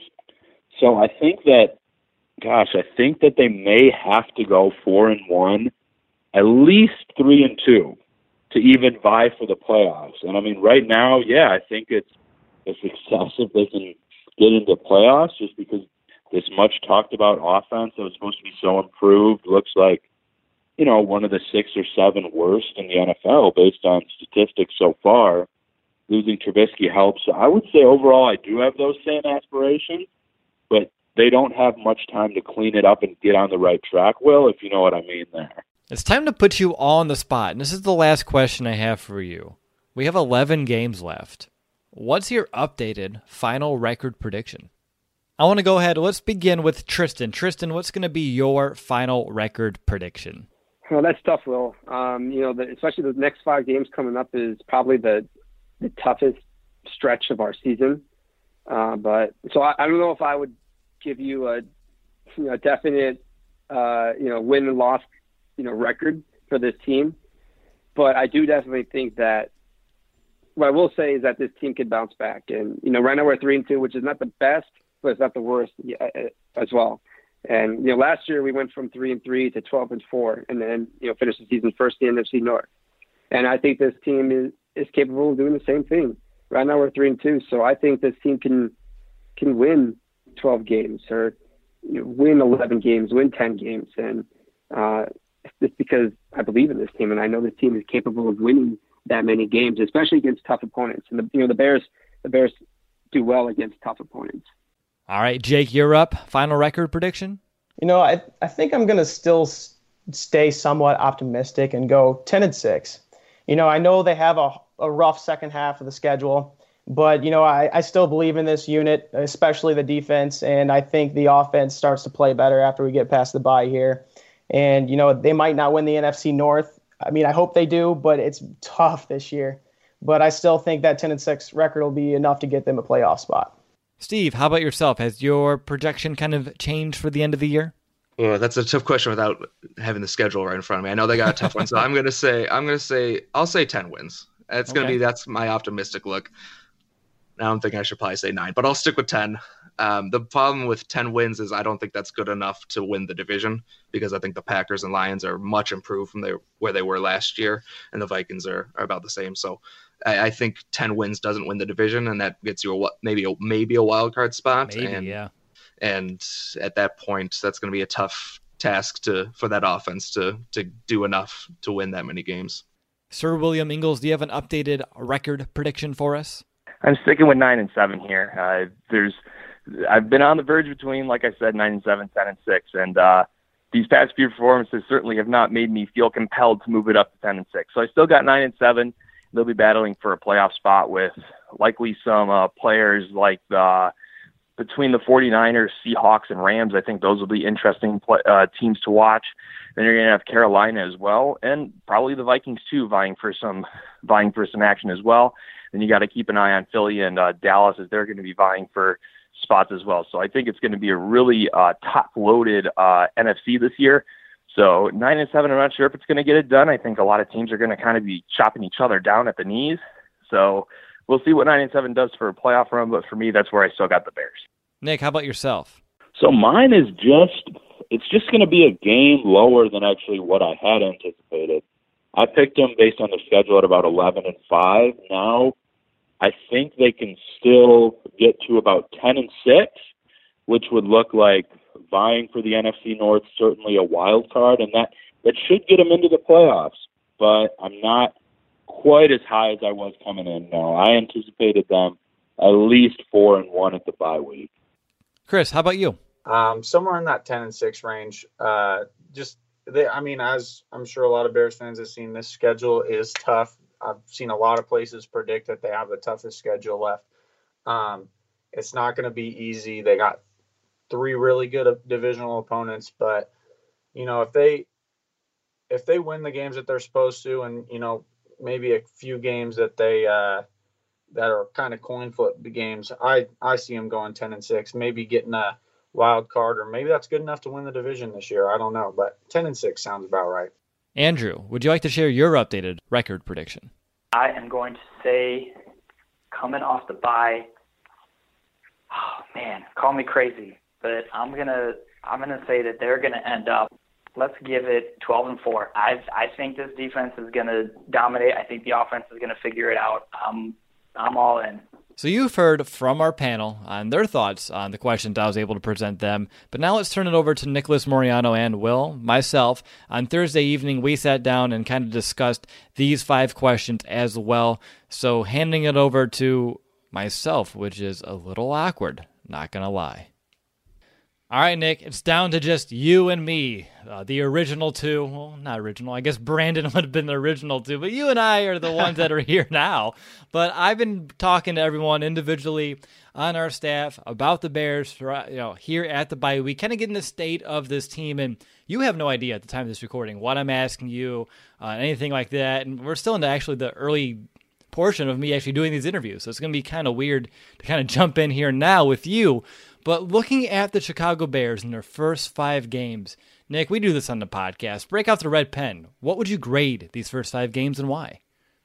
So I think that, gosh, I think that they may have to go four and one, at least three and two, to even vie for the playoffs. And I mean, right now, yeah, I think it's a success if they can get into playoffs, just because this much talked about offense that was supposed to be so improved looks like, you know, one of the six or seven worst in the N F L based on statistics so far. Losing Trubisky helps. So I would say overall I do have those same aspirations, but they don't have much time to clean it up and get on the right track, Will, if you know what I mean there. It's time to put you all on the spot, and this is the last question I have for you. We have eleven games left. What's your updated final record prediction? I want to go ahead. Let's begin with Tristan. Tristan, what's going to be your final record prediction? Well, that's tough, Will. Um, you know, the, especially the next five games coming up is probably the the toughest stretch of our season. Uh, but so I, I don't know if I would give you a, you know, definite uh, you know, win and loss, you know, record for this team. But I do definitely think that what I will say is that this team can bounce back. And, you know, right now we're three and two, which is not the best, but it's not the worst as well. And, you know, last year we went from three and three to twelve and four, and then, you know, finished the season first in the N F C North. And I think this team is, is capable of doing the same thing. Right now we're three and two, so I think this team can can win twelve games or, you know, win eleven games, win ten games, and uh, it's because I believe in this team, and I know this team is capable of winning that many games, especially against tough opponents. And the, you know, the Bears, the Bears do well against tough opponents. All right, Jake, you're up. Final record prediction? You know, I I think I'm going to still s- stay somewhat optimistic and go ten and six. You know, I know they have a, a rough second half of the schedule, but, you know, I, I still believe in this unit, especially the defense, and I think the offense starts to play better after we get past the bye here. And, you know, they might not win the N F C North. I mean, I hope they do, but it's tough this year. But I still think that ten and six record will be enough to get them a playoff spot. Steve, how about yourself? Has your projection kind of changed for the end of the year? Well, that's a tough question without having the schedule right in front of me. I know they got a tough one, so I'm gonna say I'm gonna say I'll say ten wins. That's gonna Okay. be that's my optimistic look. Now I'm thinking I should probably say nine, but I'll stick with ten. Um, the problem with ten wins is I don't think that's good enough to win the division because I think the Packers and Lions are much improved from their, where they were last year, and the Vikings are, are about the same. So I, I think ten wins doesn't win the division, and that gets you a maybe a, maybe a wild card spot. Maybe, and, yeah. And at that point, that's going to be a tough task to for that offense to to do enough to win that many games. Sir William Ingalls, do you have an updated record prediction for us? I'm sticking with nine and seven here. Uh, there's, I've been on the verge between, like I said, nine and seven, ten and six, and uh, these past few performances certainly have not made me feel compelled to move it up to ten and six. So I still got nine and seven. They'll be battling for a playoff spot with likely some uh, players like the. Between the 49ers, Seahawks, and Rams, I think those will be interesting play, uh, teams to watch. Then you're going to have Carolina as well, and probably the Vikings too, vying for some vying for some action as well. Then you got to keep an eye on Philly and uh, Dallas, as they're going to be vying for spots as well. So I think it's going to be a really uh, top-loaded uh, N F C this year. So nine and seven, I'm not sure if it's going to get it done. I think a lot of teams are going to kind of be chopping each other down at the knees. So we'll see what nine and seven does for a playoff run, but for me, that's where I still got the Bears. Nick, how about yourself? So mine is just, it's just going to be a game lower than actually what I had anticipated. I picked them based on the schedule at about eleven and five. Now I think they can still get to about ten and six, which would look like vying for the N F C North, certainly a wild card, and that, that should get them into the playoffs. But I'm not quite as high as I was coming in. No, I anticipated them at least four and one at the bye week. Chris, how about you? Um, somewhere in that ten and six range. Uh, just they, I mean, as I'm sure a lot of Bears fans have seen, this schedule is tough. I've seen a lot of places predict that they have the toughest schedule left. Um, it's not going to be easy. They got three really good divisional opponents, but you know, if they if they win the games that they're supposed to, and you know, maybe a few games that they uh, that are kind of coin flip games, I I see them going ten and six, maybe getting a wild card, or maybe that's good enough to win the division this year. I don't know, but ten and six sounds about right. Andrew, would you like to share your updated record prediction? I am going to say, coming off the bye, oh man, call me crazy, but I'm gonna I'm gonna say that they're gonna end up. Let's give it twelve and four. I I think this defense is gonna dominate. I think the offense is gonna figure it out. Um, I'm all in. So you've heard from our panel on their thoughts on the questions I was able to present them, but now let's turn it over to Nicholas Moriano and Will, myself. On Thursday evening, we sat down and kind of discussed these five questions as well. So handing it over to myself, which is a little awkward, not going to lie. All right, Nick, it's down to just you and me, uh, the original two. Well, not original. I guess Brandon would have been the original two, but you and I are the ones that are here now. But I've been talking to everyone individually on our staff about the Bears, you know, here at the bye week, kind of getting the state of this team. And you have no idea at the time of this recording what I'm asking you, uh, anything like that. And we're still into actually the early portion of me actually doing these interviews. So it's going to be kind of weird to kind of jump in here now with you. But looking at the Chicago Bears in their first five games, Nick, we do this on the podcast. Break out the red pen. What would you grade these first five games and why?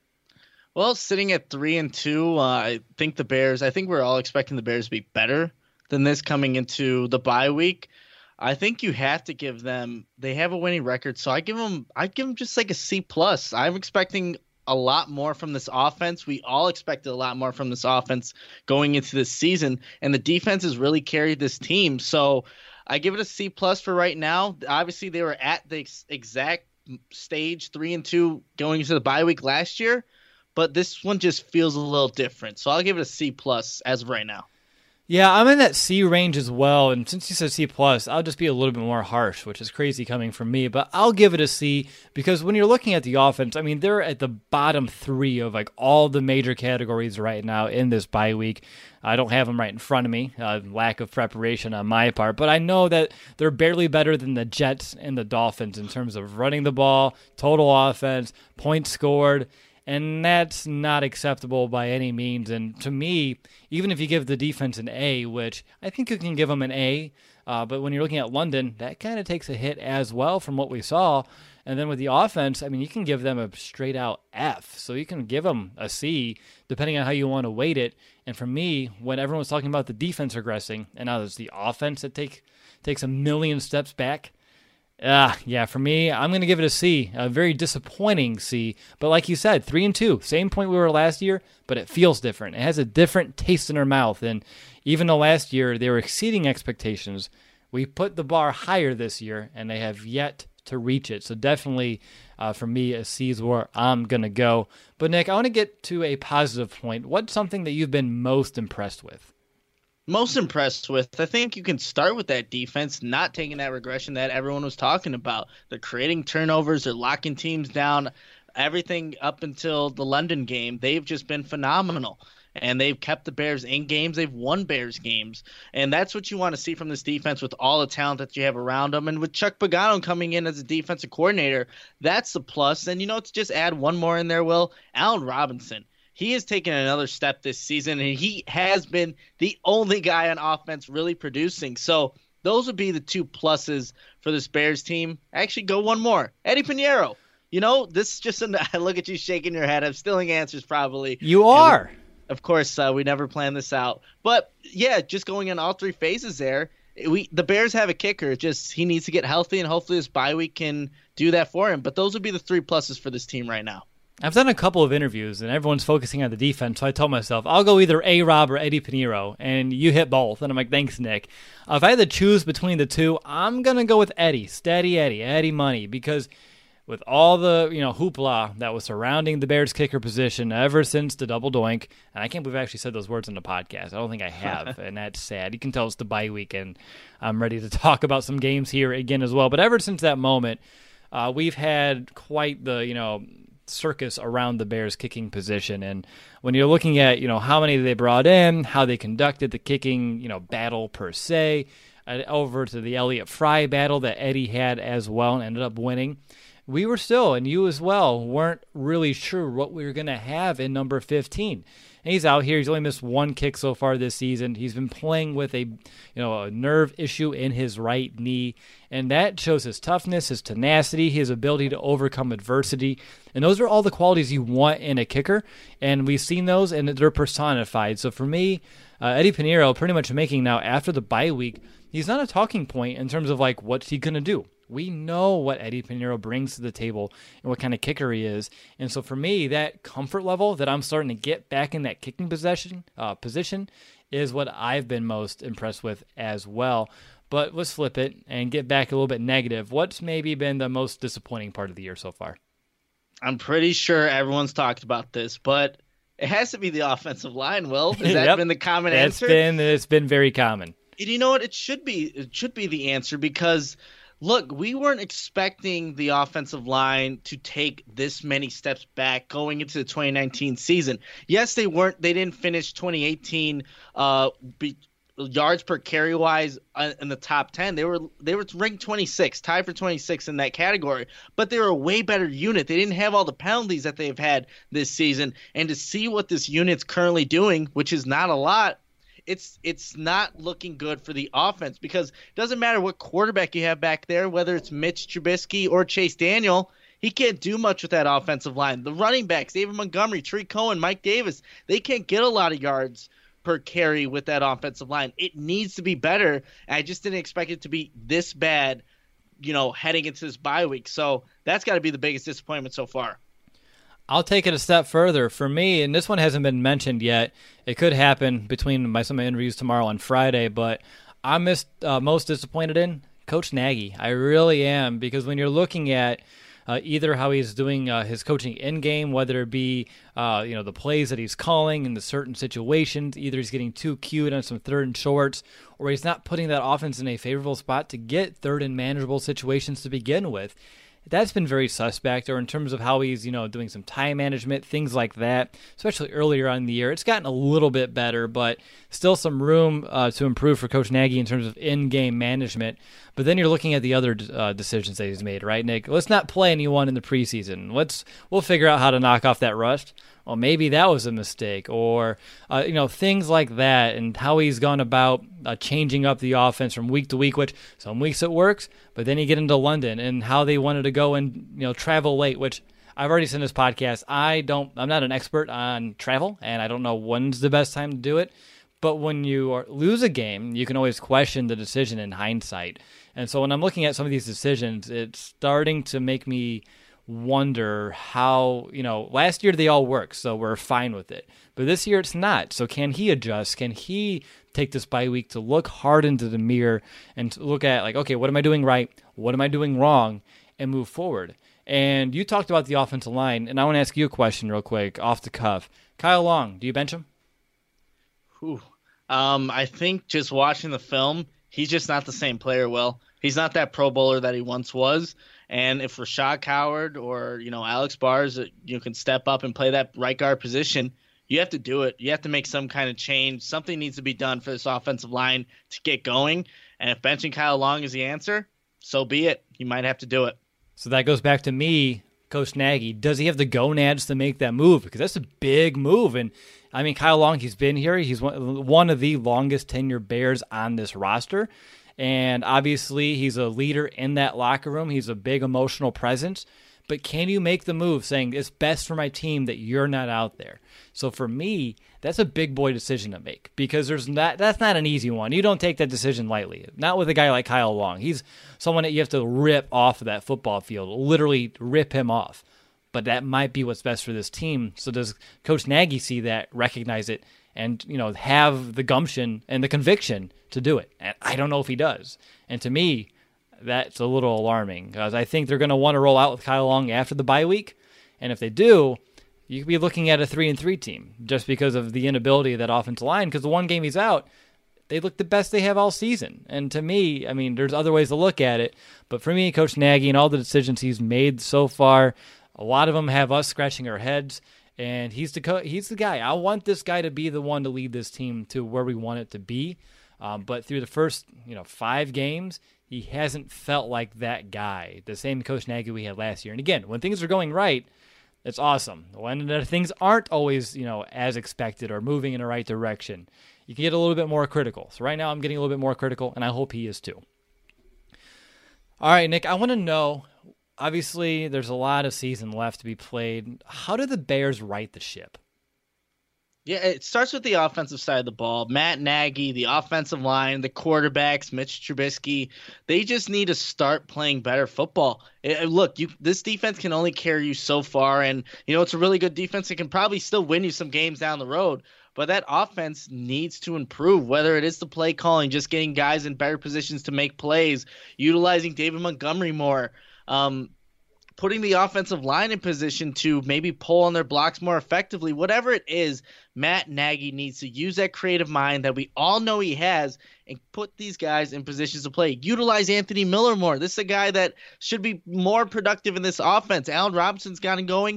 Well, sitting at three and two, uh, I think the Bears, I think we're all expecting the Bears to be better than this coming into the bye week. I think you have to give them, they have a winning record. So I give them, I give them just like a C plus. I'm expecting a lot more from this offense. We all expected a lot more from this offense going into this season, and the defense has really carried this team. So I give it a C plus for right now. Obviously, they were at the ex- exact stage three and two going into the bye week last year, but this one just feels a little different. So I'll give it a C plus as of right now. Yeah, I'm in that C range as well, and since you said C plus, I'll just be a little bit more harsh, which is crazy coming from me, but I'll give it a C because when you're looking at the offense, I mean, they're at the bottom three of like all the major categories right now in this bye week. I don't have them right in front of me, uh, lack of preparation on my part, but I know that they're barely better than the Jets and the Dolphins in terms of running the ball, total offense, points scored, and that's not acceptable by any means. And to me, even if you give the defense an A, which I think you can give them an A, uh, but when you're looking at London, that kind of takes a hit as well from what we saw. And then with the offense, I mean, you can give them a straight out F. So you can give them a C, depending on how you want to weight it. And for me, when everyone was talking about the defense regressing, and now it's the offense that take, takes a million steps back, Ah, uh, yeah, for me, I'm going to give it a C, a very disappointing C. But like you said, three and two, same point we were last year, but it feels different. It has a different taste in our mouth. And even though last year they were exceeding expectations, we put the bar higher this year, and they have yet to reach it. So definitely, uh, for me, a C is where I'm going to go. But Nick, I want to get to a positive point. What's something that you've been most impressed with? Most impressed with, I think you can start with that defense, not taking that regression that everyone was talking about. They're creating turnovers, they're locking teams down, everything up until the London game. They've just been phenomenal, and they've kept the Bears in games. They've won Bears games, and that's what you want to see from this defense with all the talent that you have around them. And with Chuck Pagano coming in as a defensive coordinator, that's a plus. And, you know, to just add one more in there, Will, Allen Robinson. He has taken another step this season, and he has been the only guy on offense really producing. So those would be the two pluses for this Bears team. Actually, go one more. Eddie Pinheiro. You know, this is just an, I look at you shaking your head. I'm stealing answers probably. You are. We, of course, uh, we never planned this out. But, yeah, just going in all three phases there. We the Bears have a kicker. Just he needs to get healthy, and hopefully this bye week can do that for him. But those would be the three pluses for this team right now. I've done a couple of interviews, and everyone's focusing on the defense, so I told myself, I'll go either A-Rob or Eddie Pinheiro, and you hit both. And I'm like, thanks, Nick. Uh, if I had to choose between the two, I'm going to go with Eddie, Steady Eddie, Eddie Money, because with all the you know hoopla that was surrounding the Bears kicker position ever since the double doink, and I can't believe I actually said those words in the podcast. I don't think I have, and that's sad. You can tell it's the bye week, and I'm ready to talk about some games here again as well. But ever since that moment, uh, we've had quite the, you know, circus around the Bears kicking position. And when you're looking at, you know, how many they brought in, how they conducted the kicking, you know, battle per se, uh, over to the Elliott Fry battle that Eddie had as well and ended up winning, we were still, and you as well, weren't really sure what we were going to have in number fifteen. And he's out here. He's only missed one kick so far this season. He's been playing with a, you know, a nerve issue in his right knee, and that shows his toughness, his tenacity, his ability to overcome adversity. And those are all the qualities you want in a kicker, and we've seen those, and they're personified. So for me, uh, Eddie Pinheiro pretty much making now, after the bye week, he's not a talking point in terms of, like, what's he going to do. We know what Eddie Pinheiro brings to the table and what kind of kicker he is. And so for me, that comfort level that I'm starting to get back in that kicking possession uh, position is what I've been most impressed with as well. But let's flip it and get back a little bit negative. What's maybe been the most disappointing part of the year so far? I'm pretty sure everyone's talked about this, but it has to be the offensive line, Will. Has that yep. been the common it's answer? Been, it's been very common. And you know what? It should be. It should be the answer because – look, we weren't expecting the offensive line to take this many steps back going into the twenty nineteen season. Yes, they weren't. They didn't finish twenty eighteen uh, be, yards per carry wise uh, in the top ten. They were they were ranked twenty-six, tied for twenty-six in that category, but they were a way better unit. They didn't have all the penalties that they've had this season, and to see what this unit's currently doing, which is not a lot, it's it's not looking good for the offense, because it doesn't matter what quarterback you have back there, whether it's Mitch Trubisky or Chase Daniel. He can't do much with that offensive line. The running backs, David Montgomery, Tariq Cohen, Mike Davis, they can't get a lot of yards per carry with that offensive line. It needs to be better. I just didn't expect it to be this bad, you know, heading into this bye week. So that's got to be the biggest disappointment so far. I'll take it a step further. For me, and this one hasn't been mentioned yet, it could happen between my some of my interviews tomorrow and Friday, but I'm most, uh, most disappointed in Coach Nagy. I really am, because when you're looking at Uh, either how he's doing uh, his coaching in-game, whether it be uh, you know the plays that he's calling in the certain situations, either he's getting too cute on some third and shorts, or he's not putting that offense in a favorable spot to get third and manageable situations to begin with. That's been very suspect, or in terms of how he's, you know, doing some time management, things like that, especially earlier on in the year. It's gotten a little bit better, but still some room uh, to improve for Coach Nagy in terms of in-game management. But then you're looking at the other uh, decisions that he's made, right, Nick? Let's not play anyone in the preseason. Let's we'll figure out how to knock off that rust. Well, maybe that was a mistake, or uh, you know, things like that, and how he's gone about uh, changing up the offense from week to week. Which some weeks it works, but then you get into London and how they wanted to go and you know travel late. Which I've already said in this podcast, I don't, I'm not an expert on travel, and I don't know when's the best time to do it. But when you are, lose a game, you can always question the decision in hindsight. And so when I'm looking at some of these decisions, it's starting to make me wonder how, you know, last year they all worked, so we're fine with it. But this year it's not. So can he adjust? Can he take this bye week to look hard into the mirror and to look at, like, okay, what am I doing right? What am I doing wrong? And move forward. And you talked about the offensive line, and I want to ask you a question real quick, off the cuff. Kyle Long, do you bench him? Ooh. Um, I think just watching the film, he's just not the same player, Will. He's not that Pro Bowler that he once was. And if Rashad Coward or, you know, Alex Bars, you can step up and play that right guard position, you have to do it. You have to make some kind of change. Something needs to be done for this offensive line to get going. And if benching Kyle Long is the answer, so be it. You might have to do it. So that goes back to me, Coach Nagy. Does he have the gonads to make that move? Because that's a big move. And, I mean, Kyle Long, he's been here. He's one of the longest tenured Bears on this roster. And obviously, he's a leader in that locker room. He's a big emotional presence. But can you make the move saying it's best for my team that you're not out there? So for me, that's a big boy decision to make, because there's not, that's not an easy one. You don't take that decision lightly. Not with a guy like Kyle Long. He's someone that you have to rip off of that football field, literally rip him off. But that might be what's best for this team. So does Coach Nagy see that, recognize it, and you know have the gumption and the conviction to do it? And I don't know if he does. And to me, that's a little alarming, because I think they're going to want to roll out with Kyle Long after the bye week. And if they do, you could be looking at a three and three team just because of the inability of that offensive line. Because the one game he's out, they look the best they have all season. And to me, I mean, there's other ways to look at it. But for me, Coach Nagy and all the decisions he's made so far, a lot of them have us scratching our heads. And he's the co- he's the guy. I want this guy to be the one to lead this team to where we want it to be. Um, but through the first, you know, five games, he hasn't felt like that guy, the same Coach Nagy we had last year. And again, when things are going right, it's awesome. When things aren't always, you know, as expected or moving in the right direction, you can get a little bit more critical. So right now I'm getting a little bit more critical, and I hope he is too. All right, Nick, I want to know, obviously there's a lot of season left to be played. How do the Bears right the ship? Yeah, it starts with the offensive side of the ball. Matt Nagy, the offensive line, the quarterbacks, Mitch Trubisky, they just need to start playing better football. It, look, you, this defense can only carry you so far, and you know it's a really good defense. It can probably still win you some games down the road, but that offense needs to improve, whether it is the play calling, just getting guys in better positions to make plays, utilizing David Montgomery more, um, putting the offensive line in position to maybe pull on their blocks more effectively. Whatever it is, Matt Nagy needs to use that creative mind that we all know he has and put these guys in positions to play. Utilize Anthony Miller more. This is a guy that should be more productive in this offense. Allen Robinson's gotten going.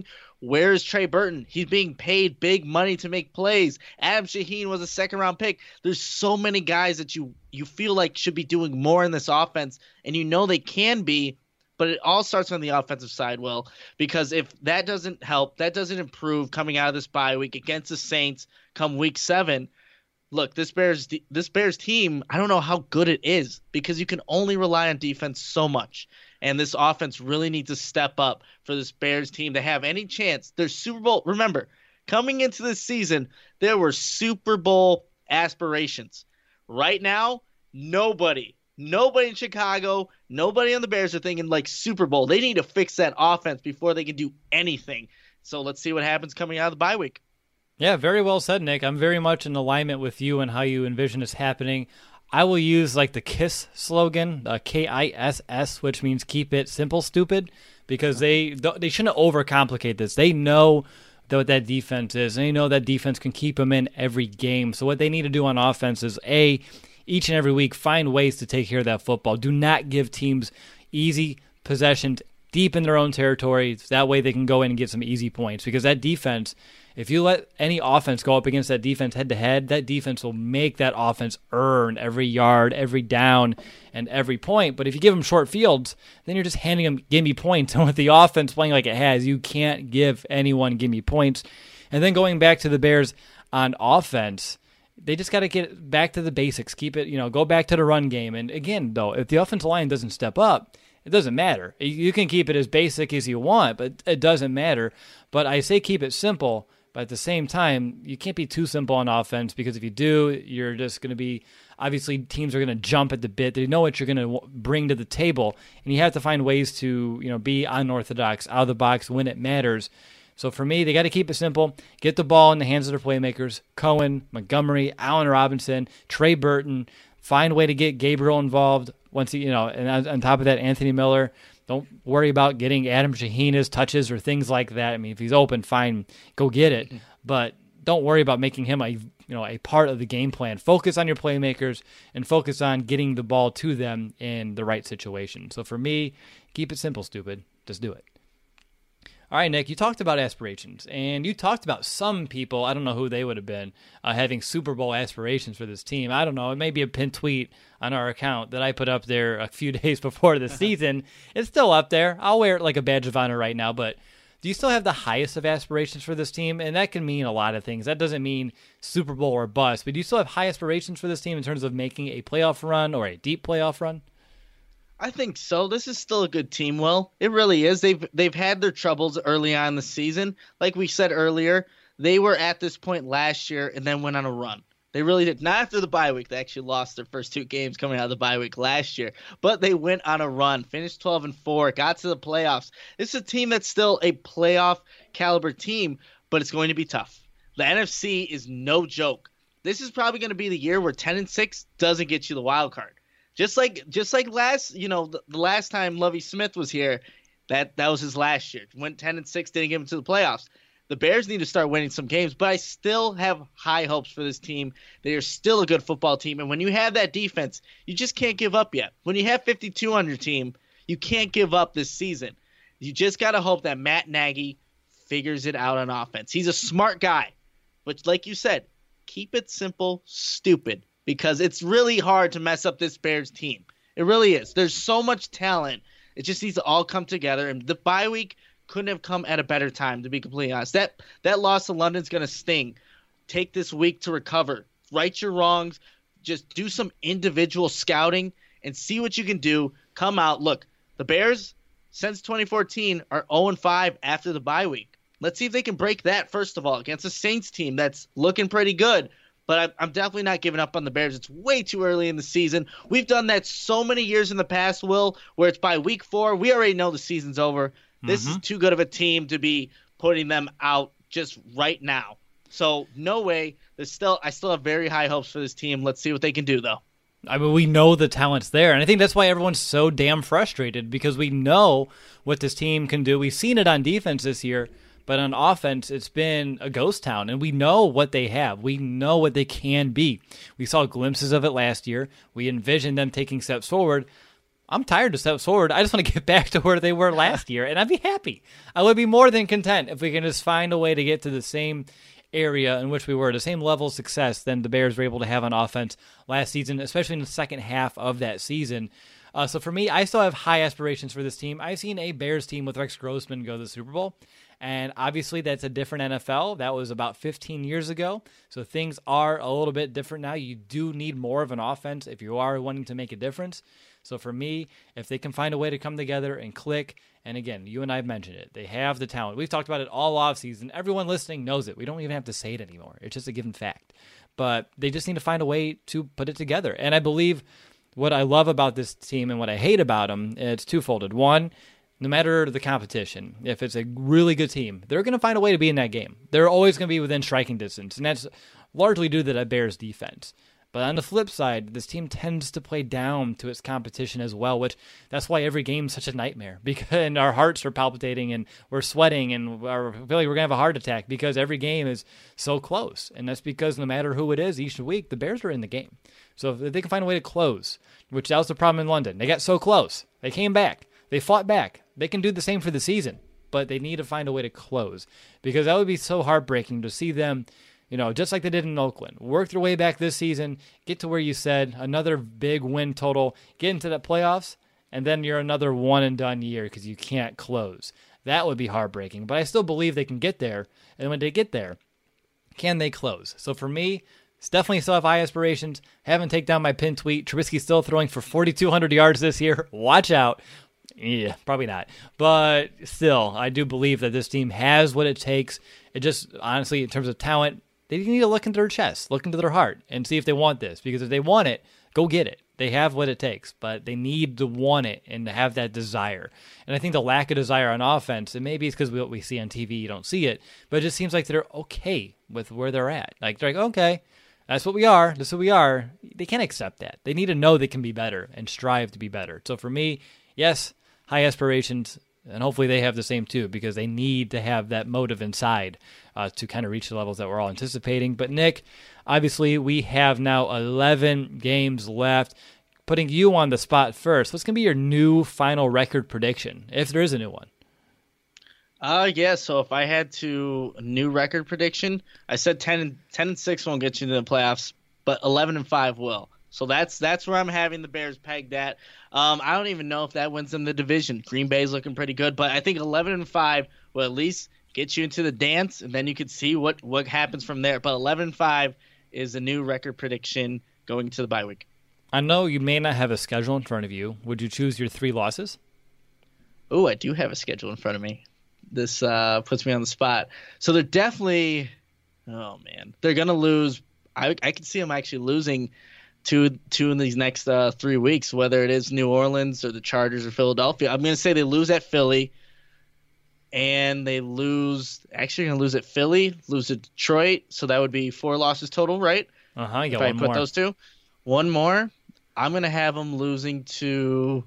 Where is Trey Burton? He's being paid big money to make plays. Adam Shaheen was a second-round pick. There's so many guys that you you feel like should be doing more in this offense, and you know they can be, but it all starts on the offensive side, Will, because if that doesn't help, that doesn't improve coming out of this bye week against the Saints come week seven, look, this Bears this Bears team, I don't know how good it is because you can only rely on defense so much. And this offense really needs to step up for this Bears team to have any chance. There's Super Bowl. Remember, coming into this season, there were Super Bowl aspirations. Right now, nobody, nobody in Chicago, nobody on the Bears are thinking like Super Bowl. They need to fix that offense before they can do anything. So let's see what happens coming out of the bye week. Yeah, very well said, Nick. I'm very much in alignment with you and how you envision this happening. I will use like the KISS slogan, uh, K I S S, which means keep it simple, stupid, because they they shouldn't overcomplicate this. They know what that defense is. They know that defense can keep them in every game. So what they need to do on offense is, A, each and every week, find ways to take care of that football. Do not give teams easy possessions deep in their own territory. That way they can go in and get some easy points, because that defense, if you let any offense go up against that defense head-to-head, that defense will make that offense earn every yard, every down, and every point. But if you give them short fields, then you're just handing them gimme points. And with the offense playing like it has, you can't give anyone gimme points. And then going back to the Bears on offense, they just got to get back to the basics. Keep it, you know, go back to the run game. And again, though, if the offensive line doesn't step up, it doesn't matter. You can keep it as basic as you want, but it doesn't matter. But I say keep it simple. But at the same time, you can't be too simple on offense, because if you do, you're just going to be, obviously teams are going to jump at the bit. They know what you're going to bring to the table, and you have to find ways to, you know, be unorthodox, out of the box when it matters. So for me, they got to keep it simple. Get the ball in the hands of their playmakers, Cohen, Montgomery, Allen Robinson, Trey Burton. Find a way to get Gabriel involved once he, you know, and on top of that, Anthony Miller. Don't worry about getting Adam Shaheen's touches or things like that. I mean, if he's open, fine, go get it. But don't worry about making him a, you know, a part of the game plan. Focus on your playmakers and focus on getting the ball to them in the right situation. So for me, keep it simple, stupid. Just do it. All right, Nick, you talked about aspirations, and you talked about some people, I don't know who they would have been, uh, having Super Bowl aspirations for this team. I don't know. It may be a pinned tweet on our account that I put up there a few days before the season. It's still up there. I'll wear it like a badge of honor right now, but do you still have the highest of aspirations for this team? And that can mean a lot of things. That doesn't mean Super Bowl or bust, but do you still have high aspirations for this team in terms of making a playoff run or a deep playoff run? I think so. This is still a good team, Will. It really is. They've they've had their troubles early on in the season. Like we said earlier, they were at this point last year and then went on a run. They really did. Not after the bye week. They actually lost their first two games coming out of the bye week last year. But they went on a run, finished twelve and four, got to the playoffs. This is a team that's still a playoff caliber team, but it's going to be tough. The N F C is no joke. This is probably going to be the year where ten and six doesn't get you the wild card. Just like just like last, you know, the, the last time Lovie Smith was here, that that was his last year. Went ten and six, didn't get him to the playoffs. The Bears need to start winning some games, but I still have high hopes for this team. They are still a good football team, and when you have that defense, you just can't give up yet. When you have fifty-two on your team, you can't give up this season. You just got to hope that Matt Nagy figures it out on offense. He's a smart guy, but like you said, keep it simple, stupid. Because it's really hard to mess up this Bears team. It really is. There's so much talent. It just needs to all come together. And the bye week couldn't have come at a better time, to be completely honest. That that loss to London's going to sting. Take this week to recover. Right your wrongs. Just do some individual scouting and see what you can do. Come out. Look, the Bears, since twenty fourteen, are oh and five after the bye week. Let's see if they can break that, first of all, against a Saints team that's looking pretty good. But I'm definitely not giving up on the Bears. It's way too early in the season. We've done that so many years in the past, Will, where it's by week four. We already know the season's over. Mm-hmm. This is too good of a team to be putting them out just right now. So no way. There's still, I still have very high hopes for this team. Let's see what they can do, though. I mean, we know the talent's there, and I think that's why everyone's so damn frustrated, because we know what this team can do. We've seen it on defense this year. But on offense, it's been a ghost town, and we know what they have. We know what they can be. We saw glimpses of it last year. We envisioned them taking steps forward, I'm tired to step forward. I just want to get back to where they were last year, and I'd be happy. I would be more than content if we can just find a way to get to the same area in which we were, the same level of success than the Bears were able to have on offense last season, especially in the second half of that season. Uh, so for me, I still have high aspirations for this team. I've seen a Bears team with Rex Grossman go to the Super Bowl, and obviously that's a different N F L. That was about fifteen years ago, so things are a little bit different now. You do need more of an offense if you are wanting to make a difference. So for me, if they can find a way to come together and click, and again, you and I have mentioned it, they have the talent. We've talked about it all offseason. Everyone listening knows it. We don't even have to say it anymore. It's just a given fact. But they just need to find a way to put it together. And I believe what I love about this team and what I hate about them, it's twofolded. One, no matter the competition, if it's a really good team, they're going to find a way to be in that game. They're always going to be within striking distance, and that's largely due to the Bears' defense. But on the flip side, this team tends to play down to its competition as well, which that's why every game is such a nightmare. Because and our hearts are palpitating and we're sweating and we're, I feel like we're going to have a heart attack because every game is so close. And that's because no matter who it is each week, the Bears are in the game. So if they can find a way to close, which that was the problem in London. They got so close. They came back. They fought back. They can do the same for the season, but they need to find a way to close because that would be so heartbreaking to see them, you know, just like they did in Oakland, work their way back this season, get to where you said, another big win total, get into the playoffs, and then you're another one-and-done year because you can't close. That would be heartbreaking, but I still believe they can get there, and when they get there, can they close? So for me, it's definitely still have high aspirations. Haven't taken down my pin tweet. Trubisky's still throwing for forty-two hundred yards this year. Watch out. Yeah, probably not. But still, I do believe that this team has what it takes. It just, honestly, in terms of talent, they need to look into their chest, look into their heart, and see if they want this. Because if they want it, go get it. They have what it takes, but they need to want it and to have that desire. And I think the lack of desire on offense, and maybe it's because what we see on T V, you don't see it, but it just seems like they're okay with where they're at. Like, they're like, okay, that's what we are. That's who we are. They can't accept that. They need to know they can be better and strive to be better. So for me, yes, high aspirations, and hopefully they have the same too, because they need to have that motive inside uh, to kind of reach the levels that we're all anticipating. But Nick, obviously we have now eleven games left. Putting you on the spot first, what's going to be your new final record prediction, if there is a new one? Uh, yeah, so if I had to, a new record prediction, I said ten and, ten and six won't get you into the playoffs, but eleven and five will. So that's that's where I'm having the Bears pegged at. Um, I don't even know if that wins them the division. Green Bay's looking pretty good, but I think eleven and five will at least get you into the dance, and then you could see what, what happens from there. But eleven and five is a new record prediction going to the bye week. I know you may not have a schedule in front of you. Would you choose your three losses? Oh, I do have a schedule in front of me. This uh, puts me on the spot. So they're definitely – oh, man. They're going to lose – I I can see them actually losing – Two, two in these next uh, three weeks, whether it is New Orleans or the Chargers or Philadelphia. I'm going to say they lose at Philly, and they lose – actually going to lose at Philly, lose at Detroit, so that would be four losses total, right? Uh-huh, you got if one I put more. those two. One more. I'm going to have them losing to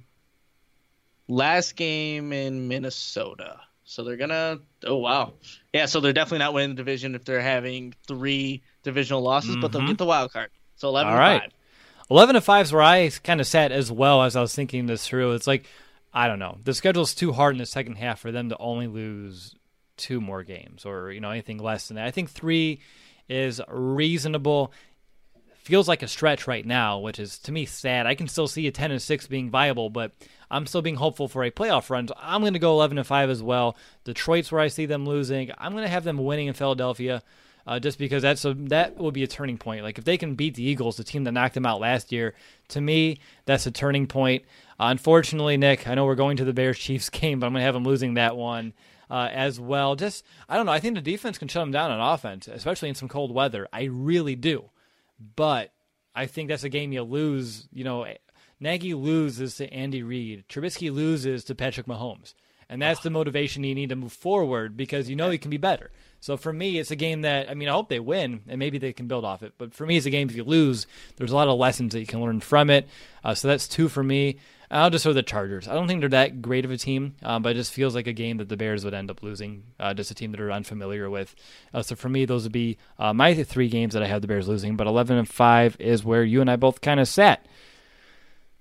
last game in Minnesota. So they're going to – oh, wow. Yeah, so they're definitely not winning the division if they're having three divisional losses, mm-hmm. but they'll get the wild card. So eleven All and right. five. eleven and five is where I kind of sat as well as I was thinking this through. It's like, I don't know. The schedule's too hard in the second half for them to only lose two more games or, you know, anything less than that. I think three is reasonable. Feels like a stretch right now, which is, to me, sad. I can still see a ten and six being viable, but I'm still being hopeful for a playoff run. So I'm going to go eleven and five as well. Detroit's where I see them losing. I'm going to have them winning in Philadelphia. Uh, just because that's a, that will be a turning point. Like if they can beat the Eagles, the team that knocked them out last year, to me, that's a turning point. Uh, unfortunately, Nick, I know we're going to the Bears-Chiefs game, but I'm going to have them losing that one uh, as well. Just, I don't know. I think the defense can shut them down on offense, especially in some cold weather. I really do. But I think that's a game you lose. You know, Nagy loses to Andy Reid. Trubisky loses to Patrick Mahomes. And that's the motivation you need to move forward because you know you can be better. So for me, it's a game that, I mean, I hope they win, and maybe they can build off it. But for me, it's a game if you lose, there's a lot of lessons that you can learn from it. Uh, so that's two for me. I'll just throw the Chargers. I don't think they're that great of a team, um, but it just feels like a game that the Bears would end up losing, uh, just a team that are unfamiliar with. Uh, so for me, those would be uh, my th- three games that I have the Bears losing. But eleven and five is where you and I both kind of sat.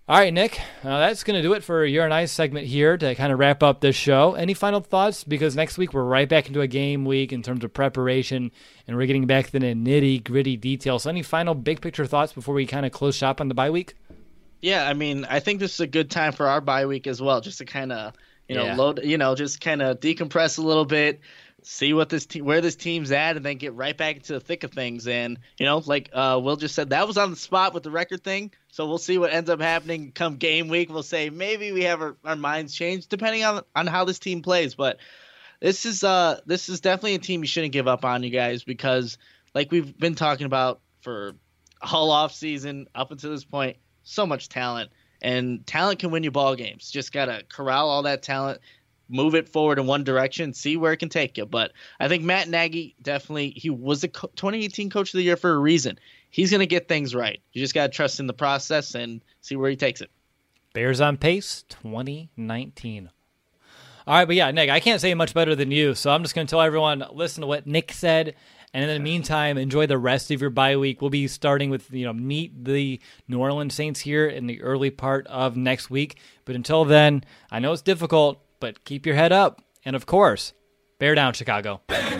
All right, Nick, uh, that's going to do it for your and I's segment here to kind of wrap up this show. Any final thoughts? Because next week we're right back into a game week in terms of preparation, and we're getting back to the nitty-gritty details. So any final big-picture thoughts before we kind of close shop on the bye week? Yeah, I mean, I think this is a good time for our bye week as well, just to kind of, you know, Yeah. load, you know, just kind of decompress a little bit, see what this te- where this team's at, and then get right back into the thick of things. And you know, like uh, Will just said, that was on the spot with the record thing. So we'll see what ends up happening come game week. We'll say maybe we have our, our minds changed depending on on how this team plays. But this is uh this is definitely a team you shouldn't give up on, you guys, because like we've been talking about for all off season up until this point, so much talent, and talent can win you ball games. Just gotta corral all that talent, move it forward in one direction, see where it can take you. But I think Matt Nagy definitely, he was the co- twenty eighteen Coach of the Year for a reason. He's going to get things right. You just got to trust in the process and see where he takes it. Bears on pace, twenty nineteen. All right, but yeah, Nick, I can't say much better than you, so I'm just going to tell everyone, listen to what Nick said, and in the meantime, enjoy the rest of your bye week. We'll be starting with, you know, meet the New Orleans Saints here in the early part of next week. But until then, I know it's difficult, but keep your head up. And of course, bear down, Chicago. Bear